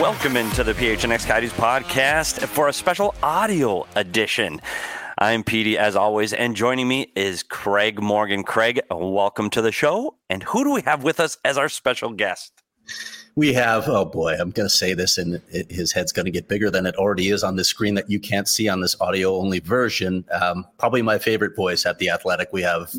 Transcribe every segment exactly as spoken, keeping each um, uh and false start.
Welcome into the P H N X Coyotes podcast for a special audio edition. I'm Petey, as always, and joining me is Craig Morgan. Craig, welcome to the show. And who do we have with us as our special guest? We have, oh boy, I'm going to say this, and it, his head's going to get bigger than it already is on the screen that you can't see on this audio-only version. Um, probably my favorite voice at The Athletic. We have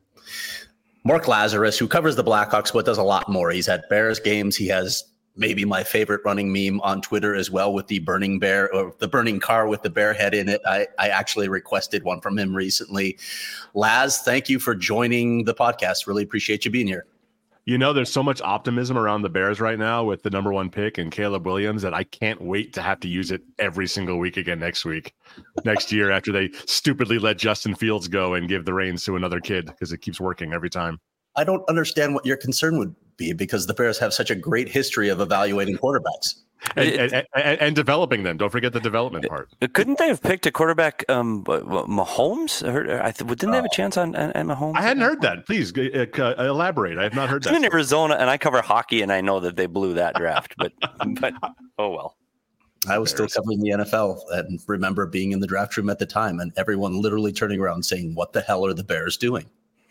Mark Lazarus, who covers the Blackhawks, but does a lot more. He's at Bears games. He has maybe my favorite running meme on Twitter as well, with the burning bear or the burning car with the bear head in it. I, I actually requested one from him recently. Laz, thank you for joining the podcast. Really appreciate you being here. You know, there's so much optimism around the Bears right now with the number one pick and Caleb Williams that I can't wait to have to use it every single week again next week, next year, after they stupidly let Justin Fields go and give the reins to another kid, because it keeps working every time. I don't understand what your concern would be, because the Bears have such a great history of evaluating quarterbacks. And, and, and, and developing them. Don't forget the development part. Couldn't they have picked a quarterback, um, Mahomes? I th- didn't they have a chance on, on, on Mahomes? I hadn't heard that. Please uh, uh, elaborate. I have not heard that. I'm in Arizona, and I cover hockey, and I know that they blew that draft. But, but oh well. I was still covering the N F L and remember being in the draft room at the time, and everyone literally turning around saying, "What the hell are the Bears doing?"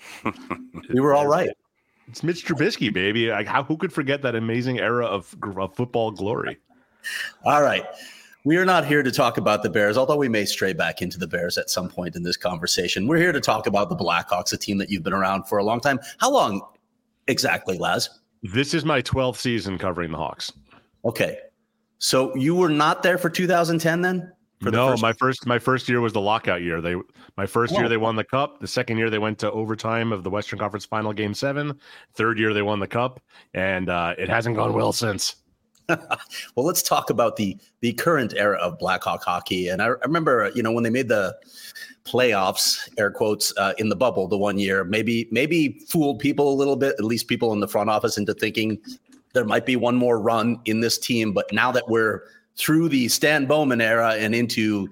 We were all right. It's Mitch Trubisky, baby. Like, how who could forget that amazing era of, of football glory? All right. We are not here to talk about the Bears, although we may stray back into the Bears at some point in this conversation. We're here to talk about the Blackhawks, a team that you've been around for a long time. How long exactly, Laz? This is my twelfth season covering the Hawks. Okay. So you were not there for two thousand ten then? For no, first- my first my first year was the lockout year. They my first oh. year they won the cup. The second year they went to overtime of the Western Conference Final, Game Seven. Third year they won the cup, and uh, it hasn't gone well since. Well, let's talk about the the current era of Blackhawk hockey. And I, I remember, you know, when they made the playoffs, air quotes, uh, in the bubble the one year, maybe maybe fooled people a little bit, at least people in the front office, into thinking there might be one more run in this team. But now that we're through the Stan Bowman era and into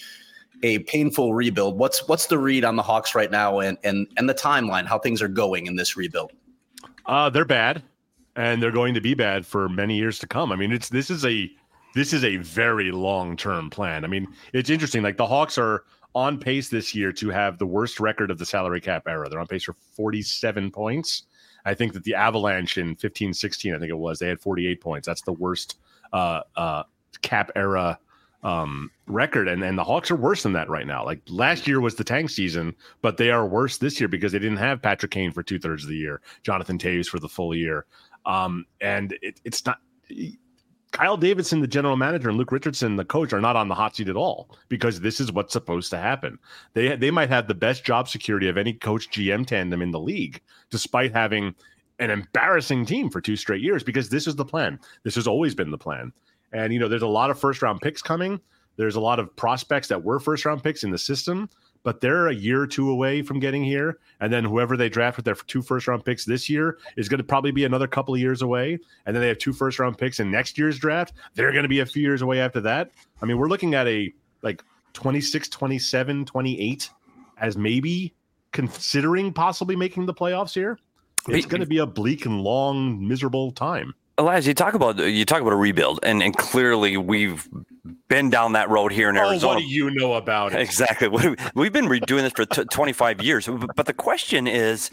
a painful rebuild, what's what's the read on the Hawks right now, and and and the timeline, how things are going in this rebuild? Uh, they're bad, and they're going to be bad for many years to come. I mean, it's this is a this is a very long-term plan. I mean, it's interesting. Like, the Hawks are on pace this year to have the worst record of the salary cap era. They're on pace for forty-seven points. I think that the Avalanche in fifteen sixteen, I think it was, they had forty-eight points. That's the worst uh, uh, cap era um, record. And, and the Hawks are worse than that right now. Like, last year was the tank season, but they are worse this year because they didn't have Patrick Kane for two thirds of the year, Jonathan Toews for the full year. Um, and it, it's not Kyle Davidson, the general manager, and Luke Richardson, the coach, are not on the hot seat at all, because this is what's supposed to happen. They, they might have the best job security of any coach G M tandem in the league, despite having an embarrassing team for two straight years, because this is the plan. This has always been the plan. And, you know, there's a lot of first round picks coming. There's a lot of prospects that were first round picks in the system, but they're a year or two away from getting here. And then whoever they draft with their two first round picks this year is going to probably be another couple of years away. And then they have two first round picks in next year's draft. They're going to be a few years away after that. I mean, we're looking at a like twenty-six, twenty-seven, twenty-eight as maybe considering possibly making the playoffs here. It's going to be a bleak and long, miserable time. Elias, you talk about you talk about a rebuild, and, and clearly we've been down that road here in Arizona. Oh, what do you know about it? Exactly. We've been doing this for t- twenty-five years. But the question is,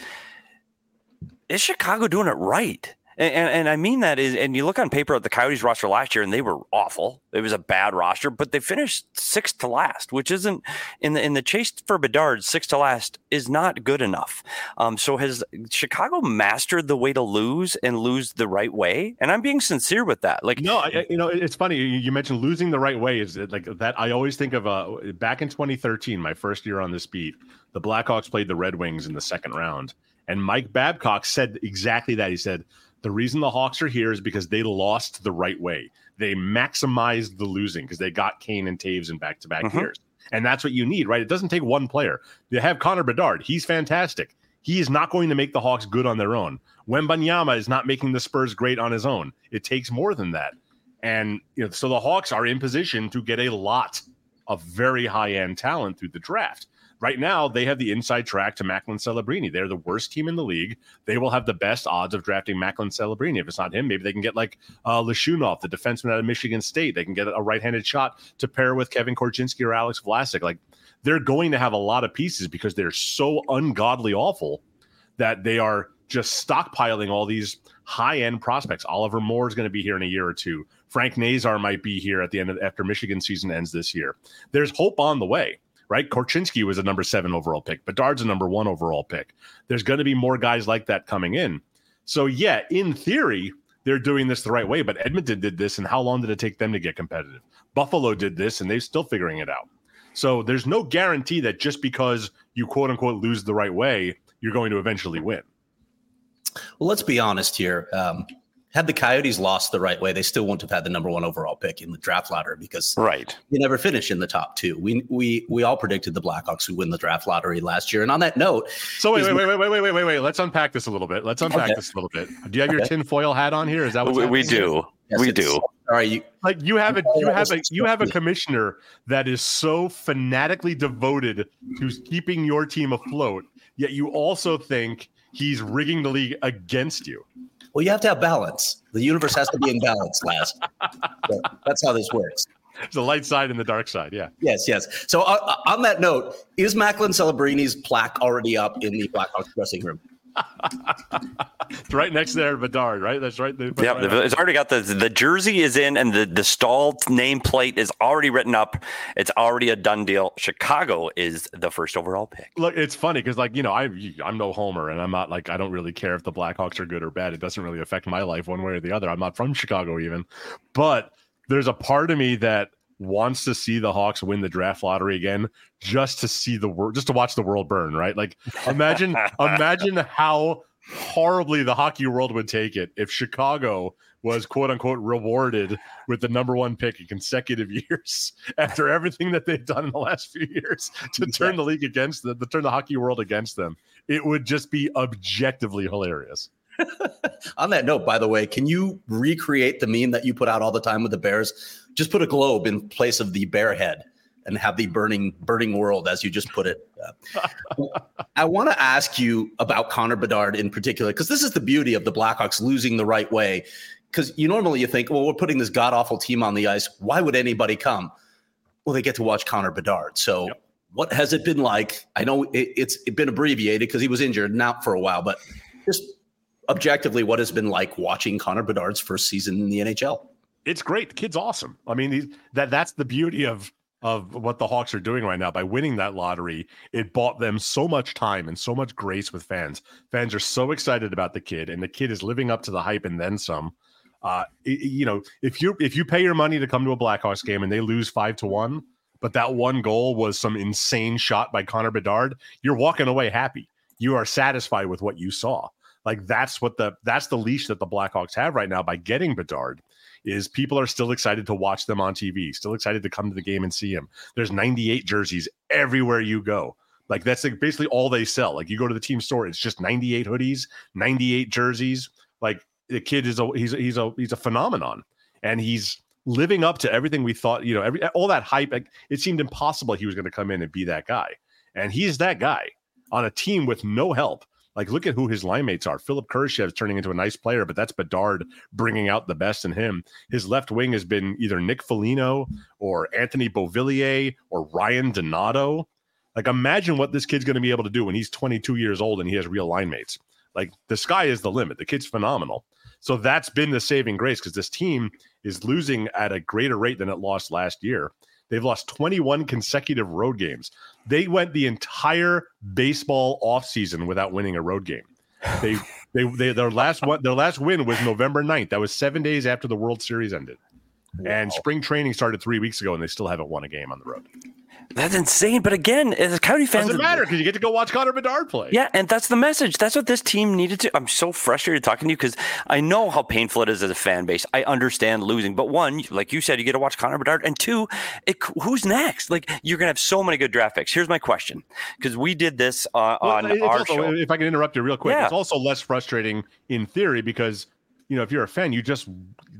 is Chicago doing it right? And, and, and I mean that is, and you look on paper at the Coyotes roster last year, and they were awful. It was a bad roster, but they finished sixth to last, which isn't in the in the chase for Bedard. Sixth to last is not good enough. Um, so has Chicago mastered the way to lose and lose the right way? And I'm being sincere with that. Like, no, I, you know, it's funny you mentioned losing the right way. Is like that? I always think of uh, back in twenty thirteen, my first year on this beat. The Blackhawks played the Red Wings in the second round, and Mike Babcock said exactly that. He said, the reason the Hawks are here is because they lost the right way. They maximized the losing because they got Kane and Toews in back-to-back mm-hmm. years. And that's what you need, right? It doesn't take one player. You have Connor Bedard. He's fantastic. He is not going to make the Hawks good on their own. Wembanyama is not making the Spurs great on his own. It takes more than that. And you know, so the Hawks are in position to get a lot of very high-end talent through the draft. Right now, they have the inside track to Macklin Celebrini. They're the worst team in the league. They will have the best odds of drafting Macklin Celebrini. If it's not him, maybe they can get like uh, Leshunov, the defenseman out of Michigan State. They can get a right-handed shot to pair with Kevin Korchinski or Alex Vlasic. Like, they're going to have a lot of pieces because they're so ungodly awful that they are just stockpiling all these high-end prospects. Oliver Moore is going to be here in a year or two. Frank Nazar might be here at the end of after Michigan season ends this year. There's hope on the way. Right? Korchinski was a number seven overall pick. Bedard's a number one overall pick. There's going to be more guys like that coming in. So, yeah, in theory, they're doing this the right way. But Edmonton did this, and how long did it take them to get competitive? Buffalo did this, and they're still figuring it out. So there's no guarantee that just because you, quote-unquote, lose the right way, you're going to eventually win. Well, let's be honest here. Um, had the Coyotes lost the right way, they still wouldn't have had the number one overall pick in the draft lottery because right. they never finished in the top two. We we we all predicted the Blackhawks would win the draft lottery last year. And on that note, so wait, wait, wait, wait, wait, wait, wait, wait, wait. Let's unpack this a little bit. Let's unpack okay. this a little bit. Do you have okay. your tinfoil hat on here? Is that what we, we do? Yes, we do. All right, you, like you have a you have a you have a commissioner that is so fanatically devoted to keeping your team afloat, yet you also think he's rigging the league against you. Well, you have to have balance. The universe has to be in balance, Laz. So that's how this works. There's a light side and the dark side, yeah. Yes, yes. So uh, on that note, is Macklin Celebrini's plaque already up in the Blackhawks dressing room? It's right next there, Bedard, right? That's right. Yeah, right it's already got the the jersey is in, and the the Stahl nameplate is already written up. It's already a done deal. Chicago is the first overall pick. Look, it's funny because, like, you know, I I'm no homer, and I'm not like I don't really care if the Blackhawks are good or bad. It doesn't really affect my life one way or the other. I'm not from Chicago even, but there's a part of me that wants to see the Hawks win the draft lottery again, just to see the world, just to watch the world burn, right? Like, imagine, imagine how horribly the hockey world would take it if Chicago was, quote unquote, rewarded with the number one pick in consecutive years after everything that they've done in the last few years to turn the league against them, to turn the hockey world against them. It would just be objectively hilarious. On that note, by the way, can you recreate the meme that you put out all the time with the Bears? Just put a globe in place of the bear head and have the burning, burning world, as you just put it. Uh, I want to ask you about Connor Bedard in particular, because this is the beauty of the Blackhawks losing the right way. Because you normally you think, well, we're putting this god-awful team on the ice. Why would anybody come? Well, they get to watch Connor Bedard. So yep. What has it been like? I know it, it's been abbreviated because he was injured and out for a while, but just objectively, what has been like watching Connor Bedard's first season in the N H L? It's great. The kid's awesome. I mean, he's, that that's the beauty of of what the Hawks are doing right now. By winning that lottery, it bought them so much time and so much grace with fans. Fans are so excited about the kid, and the kid is living up to the hype and then some. Uh, it, you know, if you if you pay your money to come to a Blackhawks game and they lose five to one, but that one goal was some insane shot by Connor Bedard, you're walking away happy. You are satisfied with what you saw. Like that's what the that's the leash that the Blackhawks have right now by getting Bedard. Is people are still excited to watch them on T V, still excited to come to the game and see him. There's ninety-eight jerseys everywhere you go. Like that's like basically all they sell. Like you go to the team store, it's just ninety-eight hoodies, ninety-eight jerseys. Like the kid is a he's a, he's a he's a phenomenon, and he's living up to everything we thought. You know, every all that hype. Like, it seemed impossible he was going to come in and be that guy, and he's that guy on a team with no help. Like, look at who his line mates are. Philip Kurashev is turning into a nice player, but that's Bedard bringing out the best in him. His left wing has been either Nick Foligno or Anthony Beauvillier or Ryan Donato. Like, imagine what this kid's going to be able to do when he's twenty-two years old and he has real line mates. Like, the sky is the limit. The kid's phenomenal. So that's been the saving grace because this team is losing at a greater rate than it lost last year. They've lost twenty-one consecutive road games. They went the entire baseball offseason without winning a road game. They, they, they, their last one, their last win was November ninth. That was seven days after the World Series ended. Wow. And spring training started three weeks ago, and they still haven't won a game on the road. That's insane. But again, as Coyote fans, doesn't matter because you get to go watch Connor Bedard play. Yeah, and that's the message. That's what this team needed to. I'm so frustrated talking to you because I know how painful it is as a fan base. I understand losing, but one, like you said, you get to watch Connor Bedard, and two, it, who's next? Like you're gonna have so many good draft picks. Here's my question, because we did this uh, well, on our also, show. If I can interrupt you real quick, yeah. It's also less frustrating in theory because you know if you're a fan, you just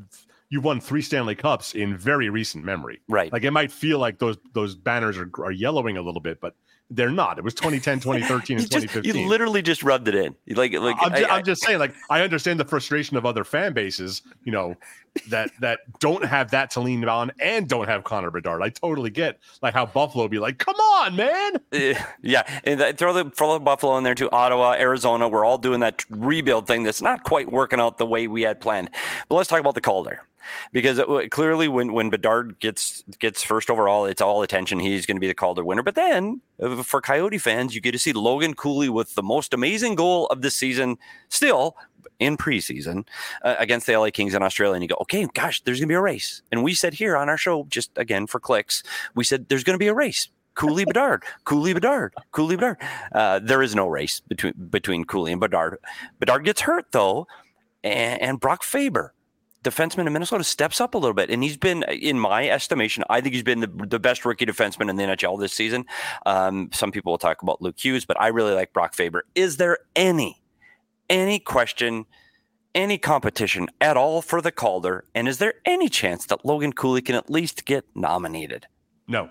you've won three Stanley Cups in very recent memory. Right. Like it might feel like those those banners are, are yellowing a little bit, but they're not. It was twenty ten, twenty thirteen, and you twenty just, fifteen. You literally just rubbed it in. Like, like I'm, ju- I, I'm just saying, like, I understand the frustration of other fan bases, you know, that that don't have that to lean on and don't have Connor Bedard. I totally get like how Buffalo be like, come on, man. Uh, yeah, and that, throw the throw the Buffalo in there too. Ottawa, Arizona, we're all doing that rebuild thing that's not quite working out the way we had planned. But let's talk about the Calder. Because it, clearly, when, when Bedard gets gets first overall, it's all attention. He's going to be the Calder winner. But then, uh, for Coyote fans, you get to see Logan Cooley with the most amazing goal of the season, still in preseason, uh, against the L A Kings in Australia. And you go, okay, gosh, there's going to be a race. And we said here on our show, just again for clicks, we said there's going to be a race. Cooley Bedard, Cooley Bedard, Cooley Bedard. Uh, there is no race between between Cooley and Bedard. Bedard gets hurt though, and, and Brock Faber, defenseman in Minnesota, steps up a little bit, and he's been, in my estimation, I think he's been the, the best rookie defenseman in the N H L this season. Um, some people will talk about Luke Hughes, but I really like Brock Faber. Is there any, any question, any competition at all for the Calder, and is there any chance that Logan Cooley can at least get nominated? No.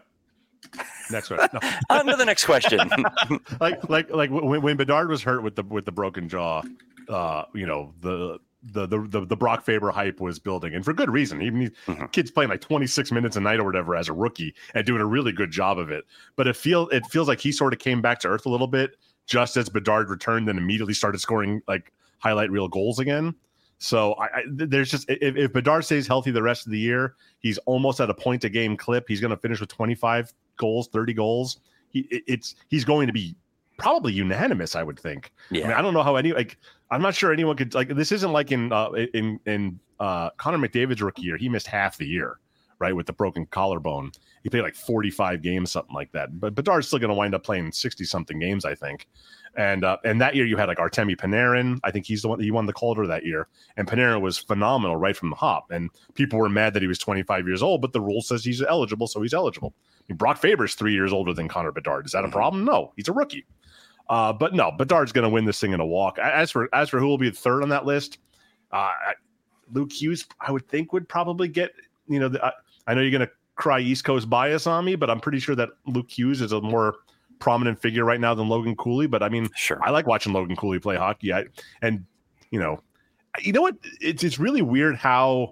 Next one. No. On to the next question. like, like, like when, when Bedard was hurt with the with the broken jaw, uh, you know the. The, the the the Brock Faber hype was building, and for good reason. Even these mm-hmm. kids playing like twenty-six minutes a night or whatever as a rookie and doing a really good job of it. But it feel it feels like he sort of came back to earth a little bit just as Bedard returned and immediately started scoring like highlight reel goals again. So I, I there's just if, if Bedard stays healthy the rest of the year, he's almost at a point a game clip. He's going to finish with twenty-five goals, thirty goals. He it's he's going to be probably unanimous, I would think. Yeah. I mean, I don't know how any like I'm not sure anyone could like this isn't like in uh in in uh Connor McDavid's rookie year. He missed half the year, right, with the broken collarbone. He played like forty-five games, something like that. But Bedard's still going to wind up playing sixty something games, I think. And uh, and that year you had like Artemi Panarin. I think he's the one he won the Calder that year. And Panarin was phenomenal right from the hop. And people were mad that he was twenty-five years old, but the rule says he's eligible, so he's eligible. I mean, Brock Faber's three years older than Connor Bedard. Is that a problem? No, he's a rookie. Uh, but no, Bedard's going to win this thing in a walk. As for as for who will be the third on that list, uh, Luke Hughes, I would think would probably get. You know, the, I, I know you're going to cry East Coast bias on me, but I'm pretty sure that Luke Hughes is a more prominent figure right now than Logan Cooley. But I mean, sure, I like watching Logan Cooley play hockey. I, and you know, you know what? It's it's really weird how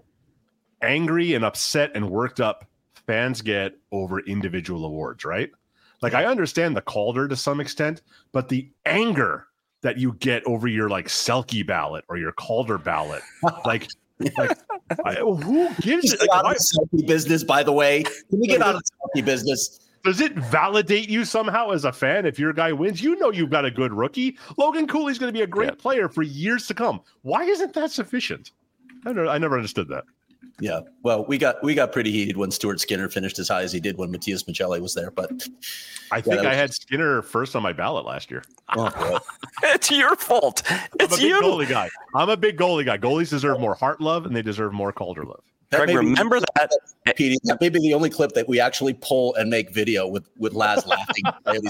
angry and upset and worked up fans get over individual awards, right? Like, I understand the Calder to some extent, but the anger that you get over your like Selke ballot or your Calder ballot, like, like I, who gives it? Like, out of the Selke business, by the way. Can we get out of the Selke business? Does it validate you somehow as a fan if your guy wins? You know you've got a good rookie. Logan Cooley's going to be a great yep. player for years to come. Why isn't that sufficient? I don't. I never understood that. Yeah, well, we got we got pretty heated when Stuart Skinner finished as high as he did when Matthias Maccelli was there. But I think yeah, I had Skinner first on my ballot last year. Oh, it's your fault. It's I'm a big you. goalie guy. I'm a big goalie guy. Goalies deserve more heart love, and they deserve more Calder love. That Craig, remember that. Petey, that may be the only clip that we actually pull and make video with with Laz laughing.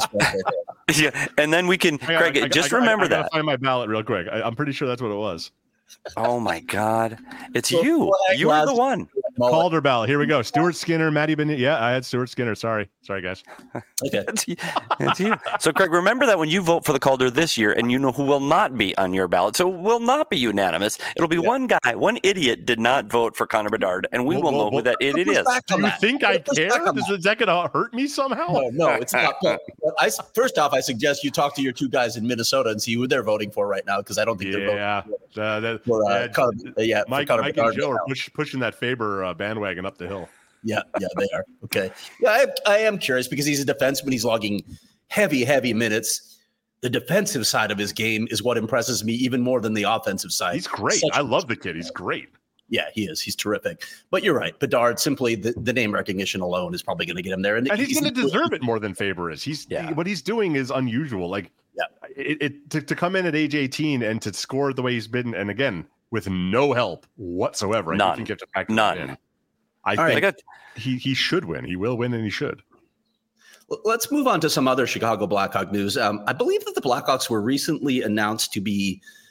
Yeah, and then we can, got, Craig. I, just I, remember I, I, I that. Gotta find my ballot real quick. I, I'm pretty sure that's what it was. Oh my God! It's so, you. You were the one. Calder ballot. Here we go. Stuart Skinner, Matty Beniers. Yeah, I had Stuart Skinner. Sorry, sorry, guys. Okay, it's, it's you. So, Craig, remember that when you vote for the Calder this year, and you know who will not be on your ballot, so it will not be unanimous. It'll be yeah. one guy, one idiot did not vote for Connor Bedard, and we well, will well, know well, who that idiot is. Do you that. think I care? Is, is that going to hurt me somehow? No, no, it's not. I first off, I suggest you talk to your two guys in Minnesota and see who they're voting for right now, because I don't think yeah. they're voting for, uh, that, for uh, yeah, Connor, uh, yeah, Mike, Mike and Joe are push, pushing that Faber uh, bandwagon up the hill. Yeah, yeah, they are. Okay. Yeah, I, I am curious because he's a defenseman. He's logging heavy, heavy minutes. The defensive side of his game is what impresses me even more than the offensive side. He's great. Such I love the kid. He's great. Yeah, he is. He's terrific. But you're right. Bedard, simply the, the name recognition alone is probably going to get him there. And, and he's, he's going to deserve it more than Faber is. He's yeah. he, what he's doing is unusual. Like, yeah, it, it to, to come in at age eighteen and to score the way he's been, and again, with no help whatsoever. None. I think you have to factor None. that in. I All think right. got, he he should win. He will win, and he should. Let's move on to some other Chicago Blackhawk news. Um, I believe that the Blackhawks were recently announced to be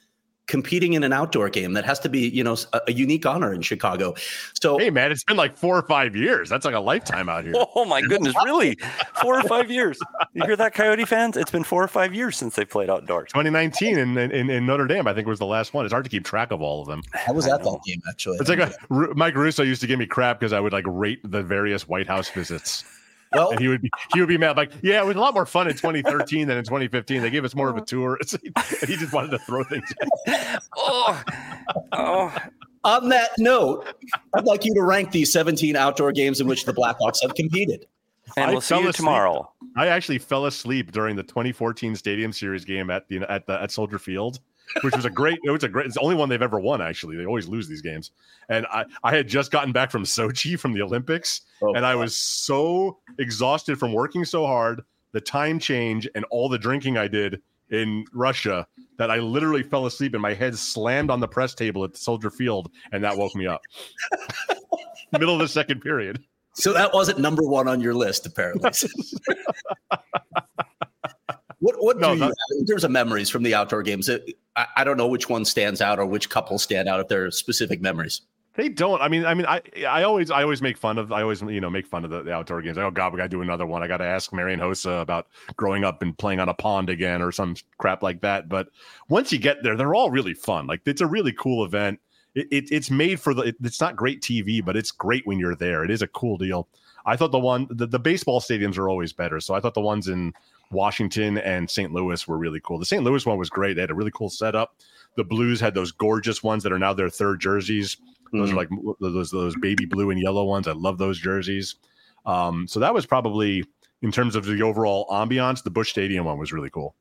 competing in an outdoor game. That has to be, you know, a, a unique honor in Chicago. So, hey, man, it's been like four or five years. That's like a lifetime out here. Oh, my goodness. Really? Four or five years. You hear that, Coyote fans? It's been four or five years since they played outdoors. twenty nineteen in, in, in Notre Dame, I think, was the last one. It's hard to keep track of all of them. I was at that game, actually. It's like a, Mike Russo used to give me crap because I would like rate the various White House visits. Well, and he would be he would be mad, like, yeah, it was a lot more fun in twenty thirteen than in twenty fifteen. They gave us more of a tour. And he just wanted to throw things at oh, oh. On that note, I'd like you to rank these seventeen outdoor games in which the Blackhawks have competed. And we'll I see you tomorrow. I actually fell asleep during the twenty fourteen Stadium Series game at the at the at Soldier Field, which was a great. It was a great. It's the only one they've ever won. Actually, they always lose these games. And I, I had just gotten back from Sochi from the Olympics, oh, and I was so exhausted from working so hard, the time change, and all the drinking I did in Russia that I literally fell asleep and my head slammed on the press table at the Soldier Field, and that woke me up. Middle of the second period. So that wasn't number one on your list, apparently. What what no, do you have in terms of memories from the outdoor games? I, I don't know which one stands out or which couple stand out if there are specific memories. They don't. I mean, I mean, I I always I always make fun of I always you know make fun of the, the outdoor games. Like, oh God, we got to do another one. I got to ask Marian Hossa about growing up and playing on a pond again or some crap like that. But once you get there, they're all really fun. Like, it's a really cool event. It, it it's made for the. It, it's not great T V, but it's great when you're there. It is a cool deal. I thought the one the, the baseball stadiums are always better. So I thought the ones in Washington and Saint Louis were really cool. The Saint Louis one was great. They had a really cool setup. The Blues had those gorgeous ones that are now their third jerseys. Those mm-hmm. are like those those baby blue and yellow ones. I love those jerseys. Um, so that was probably, in terms of the overall ambiance, the Busch Stadium one was really cool.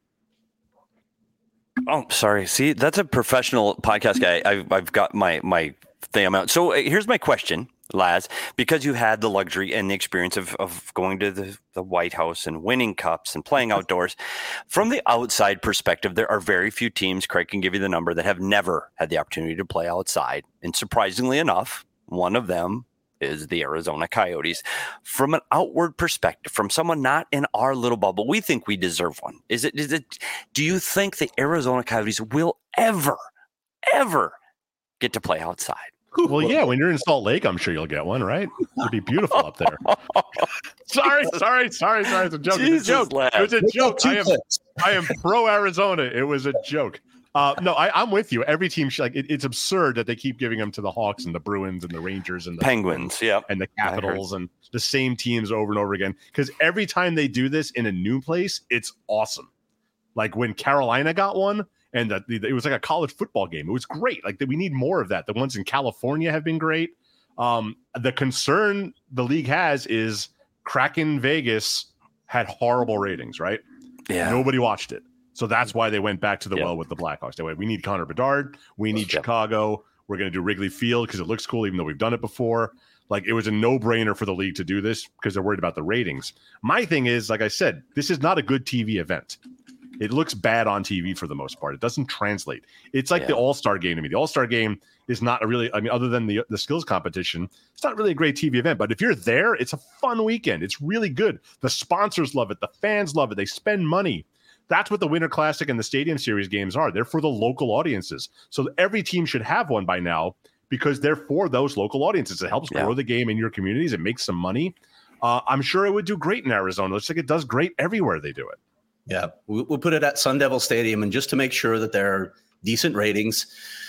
Oh, sorry. See, that's a professional podcast guy. I've I've got my my thing out. So uh, here's my question, Laz, because you had the luxury and the experience of, of going to the, the White House and winning cups and playing outdoors. From the outside perspective, there are very few teams, Craig can give you the number, that have never had the opportunity to play outside. And surprisingly enough, one of them is the Arizona Coyotes. From an outward perspective, from someone not in our little bubble, we think we deserve one. Is it? Is it? Do you think the Arizona Coyotes will ever, ever get to play outside? Well, yeah, when you're in Salt Lake, I'm sure you'll get one, right? It'd be beautiful up there. sorry, sorry, sorry, sorry. It's a joke. Jesus, it's a joke. Lad. It was a joke. I am, I am pro Arizona. It was a joke. Uh, no, I, I'm with you. Every team, should, like, it, it's absurd that they keep giving them to the Hawks and the Bruins and the Rangers and the Penguins, yeah, and the Capitals and the same teams over and over again. Because every time they do this in a new place, it's awesome. Like when Carolina got one. And the, the, it was like a college football game. It was great. Like, we need more of that. The ones in California have been great. Um, the concern the league has is Kraken Vegas had horrible ratings, right? Yeah. Nobody watched it. So that's why they went back to the yep. well with the Blackhawks. They went, we need Connor Bedard. We need yep. Chicago. We're going to do Wrigley Field because it looks cool, even though we've done it before. Like, it was a no-brainer for the league to do this because they're worried about the ratings. My thing is, like I said, this is not a good T V event. It looks bad on T V for the most part. It doesn't translate. It's like yeah. the All-Star game to me. The All-Star game is not a really, I mean, other than the, the skills competition, it's not really a great T V event. But if you're there, it's a fun weekend. It's really good. The sponsors love it. The fans love it. They spend money. That's what the Winter Classic and the Stadium Series games are. They're for the local audiences. So every team should have one by now because they're for those local audiences. It helps yeah. grow the game in your communities. It makes some money. Uh, I'm sure it would do great in Arizona. It looks like it does great everywhere they do it. Yeah, we'll put it at Sun Devil Stadium, and just to make sure that there are decent ratings,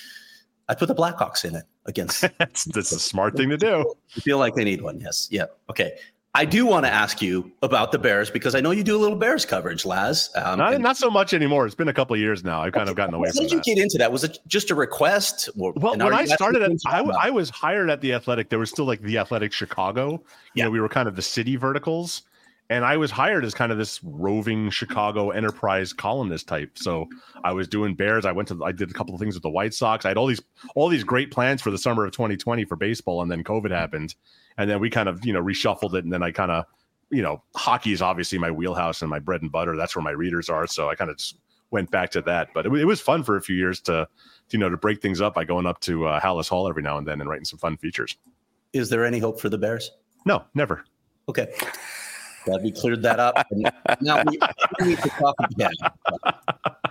I put the Blackhawks in it against. that's, that's a smart thing to do. You feel like they need one, yes. Yeah, okay. I do want to ask you about the Bears because I know you do a little Bears coverage, Laz. Um, not, and, not so much anymore. It's been a couple of years now. I've kind of gotten away how from that. How did you get into that? Was it just a request? Or, well, when I started, at, I, I was hired at The Athletic. There was still like The Athletic Chicago. You yeah. know, we were kind of the city verticals. And I was hired as kind of this roving Chicago enterprise columnist type. So I was doing Bears. I went to, I did a couple of things with the White Sox. I had all these, all these great plans for the summer of twenty twenty for baseball. And then COVID happened. And then we kind of, you know, reshuffled it. And then I kind of, you know, hockey is obviously my wheelhouse and my bread and butter. That's where my readers are. So I kind of just went back to that. But it, it was fun for a few years to, you know, to break things up by going up to uh, Hallis Hall every now and then and writing some fun features. Is there any hope for the Bears? No, never. Okay. Glad we cleared that up. And now we, we need to talk again.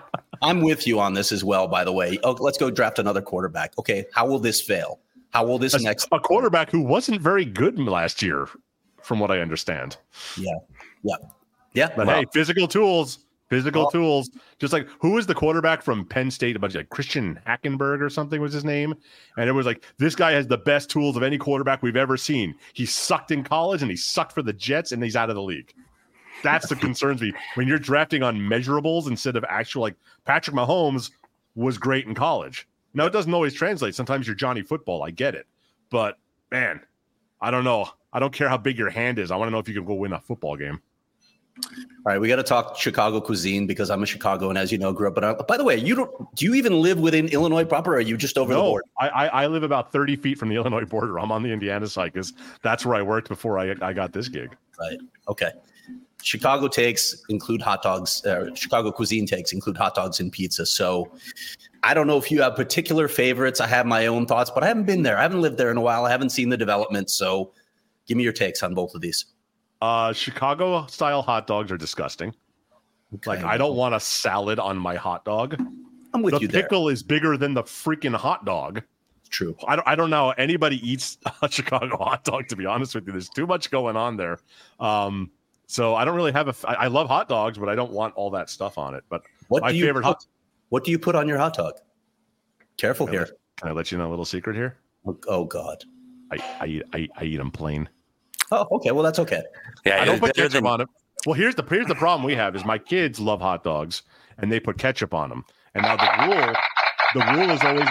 I'm with you on this as well, by the way. Oh, let's go draft another quarterback. Okay, how will this fail? How will this a, next a quarterback who wasn't very good last year, from what I understand? Yeah, yeah, yeah. But well, hey, physical tools, physical well, tools. Just like who was the quarterback from Penn State? About like Christian Hackenberg or something was his name, and it was like this guy has the best tools of any quarterback we've ever seen. He sucked in college and he sucked for the Jets, and he's out of the league. That's the concerns me when you're drafting on measurables instead of actual. Like Patrick Mahomes was great in college. Now it doesn't always translate. Sometimes you're Johnny Football. I get it, but man, I don't know. I don't care how big your hand is. I want to know if you can go win a football game. All right, we got to talk Chicago cuisine because I'm a Chicagoan, as you know, grew up. But uh, by the way, you don't. Do you even live within Illinois proper, or are you just over no, the border? I, I I live about thirty feet from the Illinois border. I'm on the Indiana side because that's where I worked before I I got this gig. Right. Okay. Chicago takes include hot dogs. Uh, Chicago cuisine takes include hot dogs and pizza. So I don't know if you have particular favorites. I have my own thoughts, but I haven't been there. I haven't lived there in a while. I haven't seen the development. So give me your takes on both of these. Uh, Chicago style hot dogs are disgusting. Okay. Like I don't want a salad on my hot dog. I'm with the you there. The pickle is bigger than the freaking hot dog. True. I don't, I don't know how anybody eats a Chicago hot dog, to be honest with you. There's too much going on there. Um, so I don't really have a. I, I love hot dogs, but I don't want all that stuff on it. But what my do you favorite put, hot. What do you put on your hot dog? Careful can here. I let, can I let you know a little secret here? Oh, oh God. I I eat I, I eat them plain. Oh, okay. Well, that's okay. Yeah, I don't put ketchup than... on it. Well, here's the here's the problem we have is my kids love hot dogs and they put ketchup on them. And now the rule the rule is always.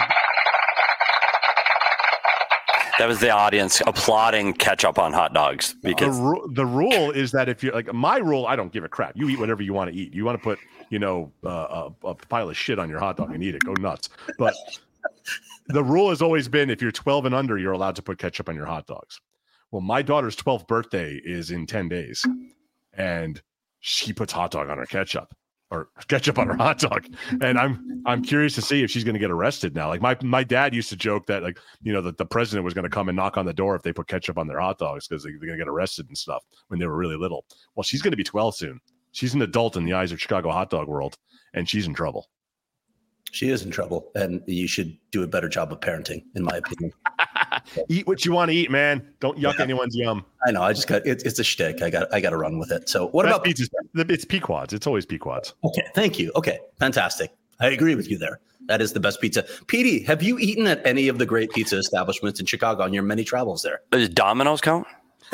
That was the audience applauding ketchup on hot dogs because the, ru- the rule is that if you're like my rule, I don't give a crap. You eat whatever you want to eat. You want to put, you know, uh, a, a pile of shit on your hot dog and eat it. Go nuts. But the rule has always been if you're twelve and under, you're allowed to put ketchup on your hot dogs. Well, my daughter's twelfth birthday is in ten days, and she puts hot dog on her ketchup. Or ketchup on her hot dog, and I'm I'm curious to see if she's going to get arrested now. Like my my dad used to joke that like you know that the president was going to come and knock on the door if they put ketchup on their hot dogs because they, they're going to get arrested and stuff when they were really little. Well, she's going to be twelve soon. She's an adult in the eyes of Chicago hot dog world, and she's in trouble. She is in trouble, and you should do a better job of parenting, in my opinion. Eat what you want to eat, man. Don't yuck yeah. anyone's yum. I know. I just got it, it's a shtick. I got I got to run with it. So what That's about pizza? It's Pequods. It's always Pequods. Okay, thank you. Okay, fantastic. I agree with you there. That is the best pizza. Petey, have you eaten at any of the great pizza establishments in Chicago on your many travels there? Does Domino's count?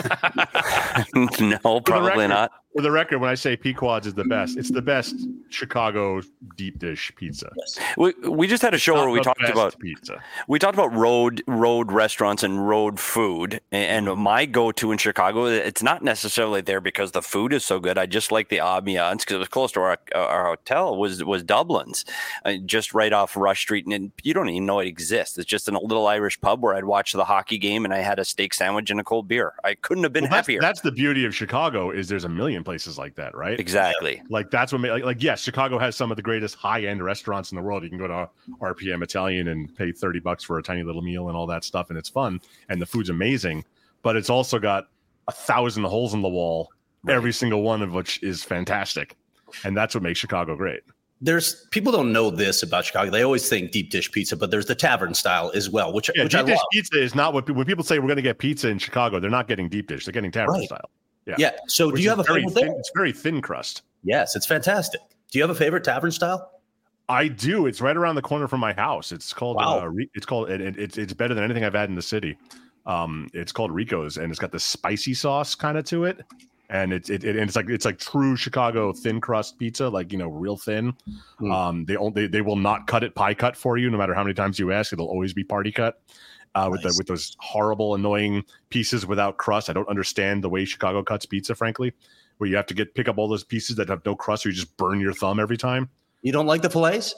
No, probably record, not. For the record, when I say Pequods is the best, it's the best Chicago deep dish pizza. Yes. We we just had a show Not where we talked about pizza. We talked about road road restaurants and road food. And my go-to in Chicago, it's not necessarily there because the food is so good. I just like the ambiance because it was close to our our hotel. Was was Dublin's, uh, just right off Rush Street, and you don't even know it exists. It's just in a little Irish pub where I'd watch the hockey game and I had a steak sandwich and a cold beer. I couldn't have been well, that's, happier. That's the beauty of Chicago is there's a million places like that, right? Exactly. Like that's what like, like yes, Chicago has some of the greatest high-end restaurants in the world. You can go to R P M Italian and pay thirty bucks for a tiny little meal and all that stuff, and it's fun and the food's amazing, but it's also got a thousand holes in the wall, right. Every single one of which is fantastic. And that's what makes Chicago great. There's people don't know this about Chicago. They always think deep dish pizza, but there's the tavern style as well, which, yeah, which deep I dish love. Pizza is not what when people say we're going to get pizza in Chicago. They're not getting deep dish. They're getting tavern right. style. Yeah. Yeah. So which do you have a very favorite thin, there? It's very thin crust. Yes, it's fantastic. Do you have a favorite tavern style? I do. It's right around the corner from my house. It's called. Wow. Uh, it's called. It, it, it's it's better than anything I've had in the city. Um, it's called Rico's, and it's got this spicy sauce kind of to it, and it's it, it and it's like it's like true Chicago thin crust pizza, like you know, real thin. Mm. Um, they they they will not cut it pie cut for you, no matter how many times you ask. It'll always be party cut. Uh, nice. with the, with those horrible, annoying pieces without crust. I don't understand the way Chicago cuts pizza, frankly, where you have to get pick up all those pieces that have no crust, or you just burn your thumb every time. You don't like the fillets?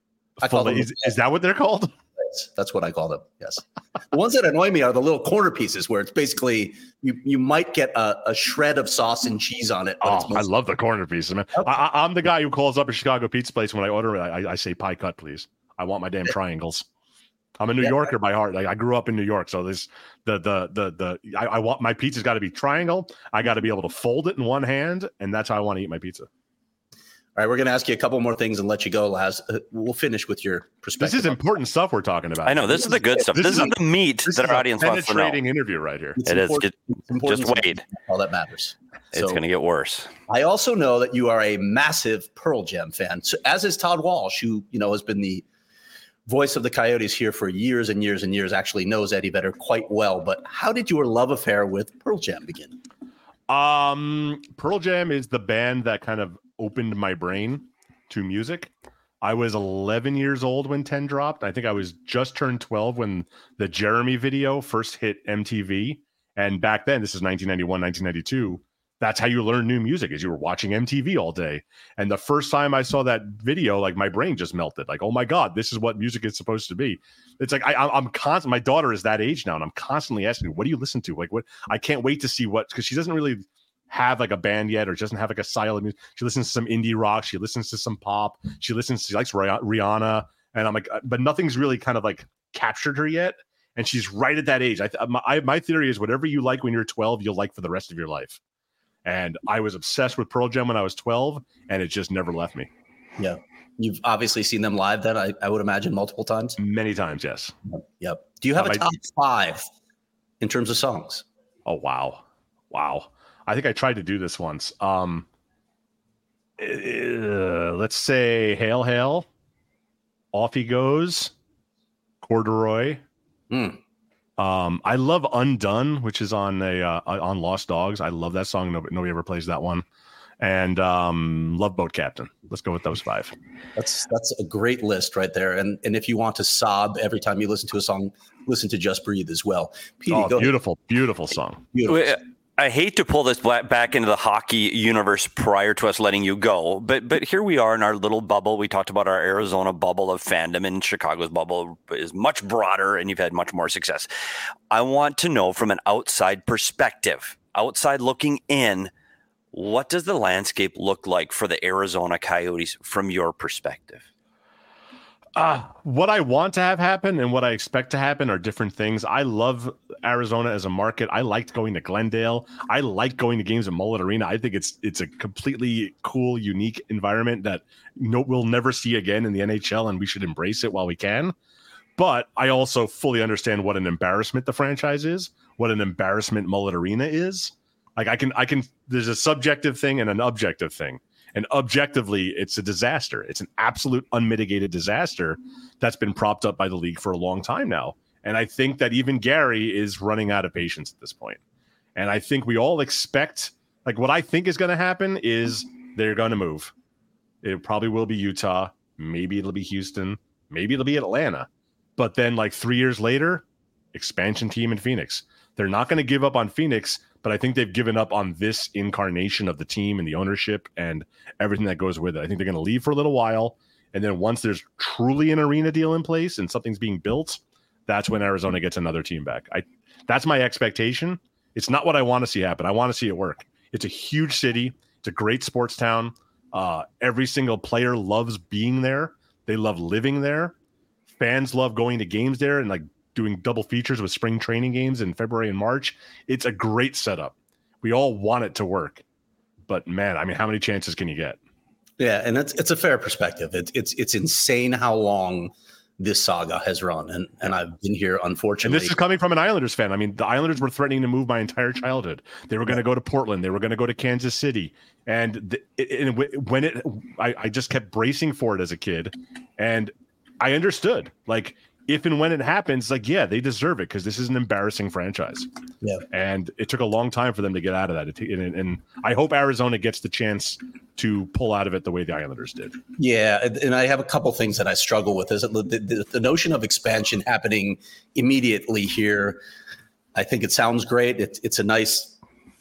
I call them, is, is that what they're called? That's what I call them. Yes. The ones that annoy me are the little corner pieces where it's basically you you might get a, a shred of sauce and cheese on it. But oh, it's mostly- I love the corner pieces, man. Okay. I, I'm the guy who calls up a Chicago pizza place when I order it. I, I say pie cut, please. I want my damn triangles. I'm a New yeah. Yorker by heart. Like I grew up in New York, so this the the the the I, I want my pizza's got to be triangle. I got to be able to fold it in one hand, and that's how I want to eat my pizza. All right, we're going to ask you a couple more things and let you go, Laz. Uh, we'll finish with your perspective. This is important stuff we're talking about. I know. This, this is the good stuff. This, this is, is a, the meat that our audience wants to know. Penetrating interview right here. It's it is. Get, just wait. All that matters. It's so, going to get worse. I also know that you are a massive Pearl Jam fan, so, as is Todd Walsh, who you know has been the voice of the Coyotes here for years and years and years, actually knows Eddie Vedder quite well. But how did your love affair with Pearl Jam begin? Um, Pearl Jam is the band that kind of opened my brain to music. I was eleven years old when ten dropped. I think I was just turned twelve when the Jeremy video first hit M T V. And back then, this is nineteen ninety-one, nineteen ninety-two. That's how you learn new music, is you were watching M T V all day. And the first time I saw that video, like my brain just melted. Like, oh my God, this is what music is supposed to be. It's like I, I'm constant. My daughter is that age now, and I'm constantly asking, "What do you listen to?" Like, what? I can't wait to see what, because she doesn't really have like a band yet, or doesn't have like a style of music. She listens to some indie rock. She listens to some pop. She listens. She likes Rihanna, and I'm like, but nothing's really kind of like captured her yet. And she's right at that age. I, my, I my theory is whatever you like when you're twelve, you'll like for the rest of your life. And I was obsessed with Pearl Jam when I was twelve, and it just never left me. Yeah. You've obviously seen them live then, I, I would imagine, multiple times. Many times, yes. Yep. Do you have uh, a top I, five in terms of songs? Oh, wow. Wow. I think I tried to do this once. Um, uh, let's say Hail, Hail, Off He Goes, Corduroy. Mm. Um, I love Undone, which is on a uh, on Lost Dogs. I love that song. Nobody, nobody ever plays that one. And um, Love Boat Captain. Let's go with those five. That's that's a great list right there. And and if you want to sob every time you listen to a song, listen to Just Breathe as well. Petey, oh, beautiful, ahead. beautiful song. Beautiful. I hate to pull this back into the hockey universe prior to us letting you go, but but here we are in our little bubble. We talked about our Arizona bubble of fandom, and Chicago's bubble is much broader, and you've had much more success. I want to know from an outside perspective, outside looking in, what does the landscape look like for the Arizona Coyotes from your perspective? Uh, what I want to have happen and what I expect to happen are different things. I love Arizona as a market. I liked going to Glendale. I like going to games at Mullet Arena. I think it's it's a completely cool, unique environment that no, we'll never see again in the N H L, and we should embrace it while we can. But I also fully understand what an embarrassment the franchise is, what an embarrassment Mullet Arena is. Like I can, I can. There's a subjective thing and an objective thing. And objectively, it's a disaster. It's an absolute unmitigated disaster that's been propped up by the league for a long time now. And I think that even Gary is running out of patience at this point. And I think we all expect, like what I think is going to happen is they're going to move. It probably will be Utah. Maybe it'll be Houston. Maybe it'll be Atlanta. But then like three years later, expansion team in Phoenix. They're not going to give up on Phoenix, but I think they've given up on this incarnation of the team and the ownership and everything that goes with it. I think they're going to leave for a little while. And then once there's truly an arena deal in place and something's being built, that's when Arizona gets another team back. I That's my expectation. It's not what I want to see happen. I want to see it work. It's a huge city. It's a great sports town. Uh, every single player loves being there. They love living there. Fans love going to games there and like doing double features with spring training games in February and March. It's a great setup. We all want it to work, but man, I mean, how many chances can you get? Yeah. And it's, it's a fair perspective. It's, it's, it's insane how long this saga has run. And, and I've been here, unfortunately. And this is coming from an Islanders fan. I mean, the Islanders were threatening to move my entire childhood. They were going to go to Portland. They were going to go to Kansas City. And the, it, it, when it, I, I just kept bracing for it as a kid. And I understood, like, if and when it happens, like, yeah, they deserve it because this is an embarrassing franchise. Yeah. And it took a long time for them to get out of that. It, and, and I hope Arizona gets the chance to pull out of it the way the Islanders did. Yeah. And I have a couple things that I struggle with. Is the, the, the notion of expansion happening immediately here. I think it sounds great. It, it's a nice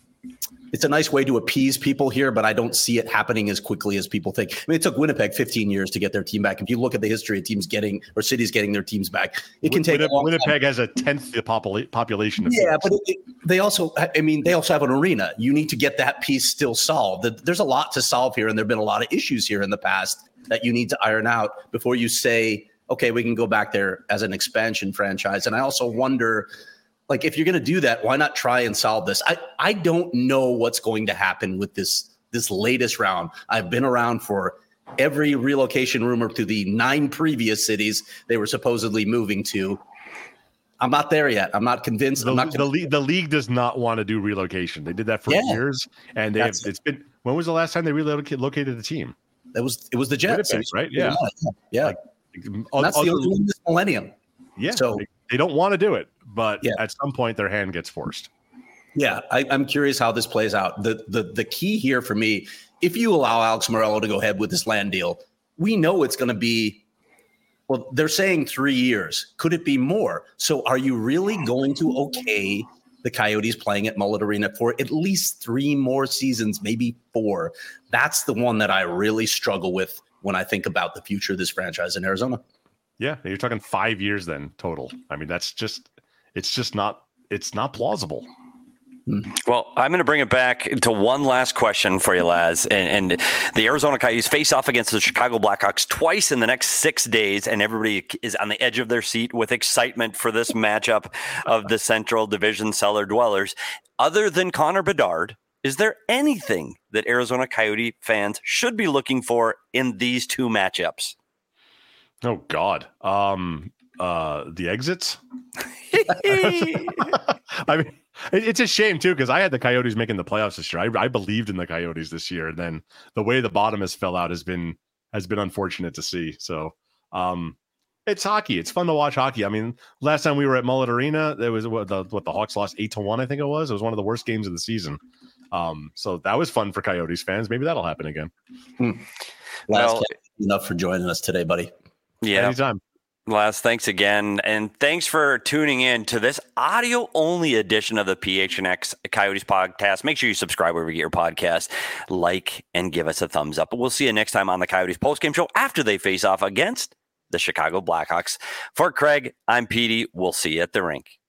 It's a nice way to appease people here, but I don't see it happening as quickly as people think. I mean, it took Winnipeg fifteen years to get their team back. If you look at the history of teams getting or cities getting their teams back, it can take Winnipeg, a long Winnipeg time. has a tenth the popula- population. Of yeah, cities. but it, it, they also, I mean, they also have an arena. You need to get that piece still solved. There's a lot to solve here, and there have been a lot of issues here in the past that you need to iron out before you say, okay, we can go back there as an expansion franchise. And I also wonder, like, if you're going to do that, why not try and solve this? I, I don't know what's going to happen with this this latest round. I've been around for every relocation rumor to the nine previous cities they were supposedly moving to. I'm not there yet. I'm not convinced. The, I'm not the, league, the league does not want to do relocation. They did that for Yeah. years, and they have, That's- it's been. When was the last time they relocated located the team? It was it was the Jets, Winnipeg, right? Yeah. yeah. Like, And o- that's the other- only one this millennium. Yeah, So- they, they don't want to do it, but Yeah. at some point their hand gets forced. Yeah, I, I'm curious how this plays out. The, the the key here for me, if you allow Alex Morello to go ahead with this land deal, we know it's going to be, well, they're saying three years. Could it be more? So are you really going to okay the Coyotes playing at Mullet Arena for at least three more seasons, maybe four? That's the one that I really struggle with when I think about the future of this franchise in Arizona. Yeah, you're talking five years then total. I mean, that's just it's just not it's not plausible. Well, I'm going to bring it back to one last question for you, Laz. And, and the Arizona Coyotes face off against the Chicago Blackhawks twice in the next six days, and everybody is on the edge of their seat with excitement for this matchup of the Central Division cellar dwellers. Other than Connor Bedard, is there anything that Arizona Coyote fans should be looking for in these two matchups? Oh God, um, uh, the exits. I mean, it, it's a shame too because I had the Coyotes making the playoffs this year. I, I believed in the Coyotes this year, and then the way the bottom has fell out has been has been unfortunate to see. So, um, it's hockey. It's fun to watch hockey. I mean, last time we were at Mullet Arena, there was what the what the Hawks lost eight to one. I think it was. It was one of the worst games of the season. Um, so that was fun for Coyotes fans. Maybe that'll happen again. Hmm. Well, Last enough for joining us today, buddy. Yeah. Anytime. Laz, thanks again. And thanks for tuning in to this audio-only edition of the P H N X Coyotes podcast. Make sure you subscribe wherever you get your podcast, like, and give us a thumbs up. But we'll see you next time on the Coyotes postgame show after they face off against the Chicago Blackhawks. For Craig, I'm Petey. We'll see you at the rink.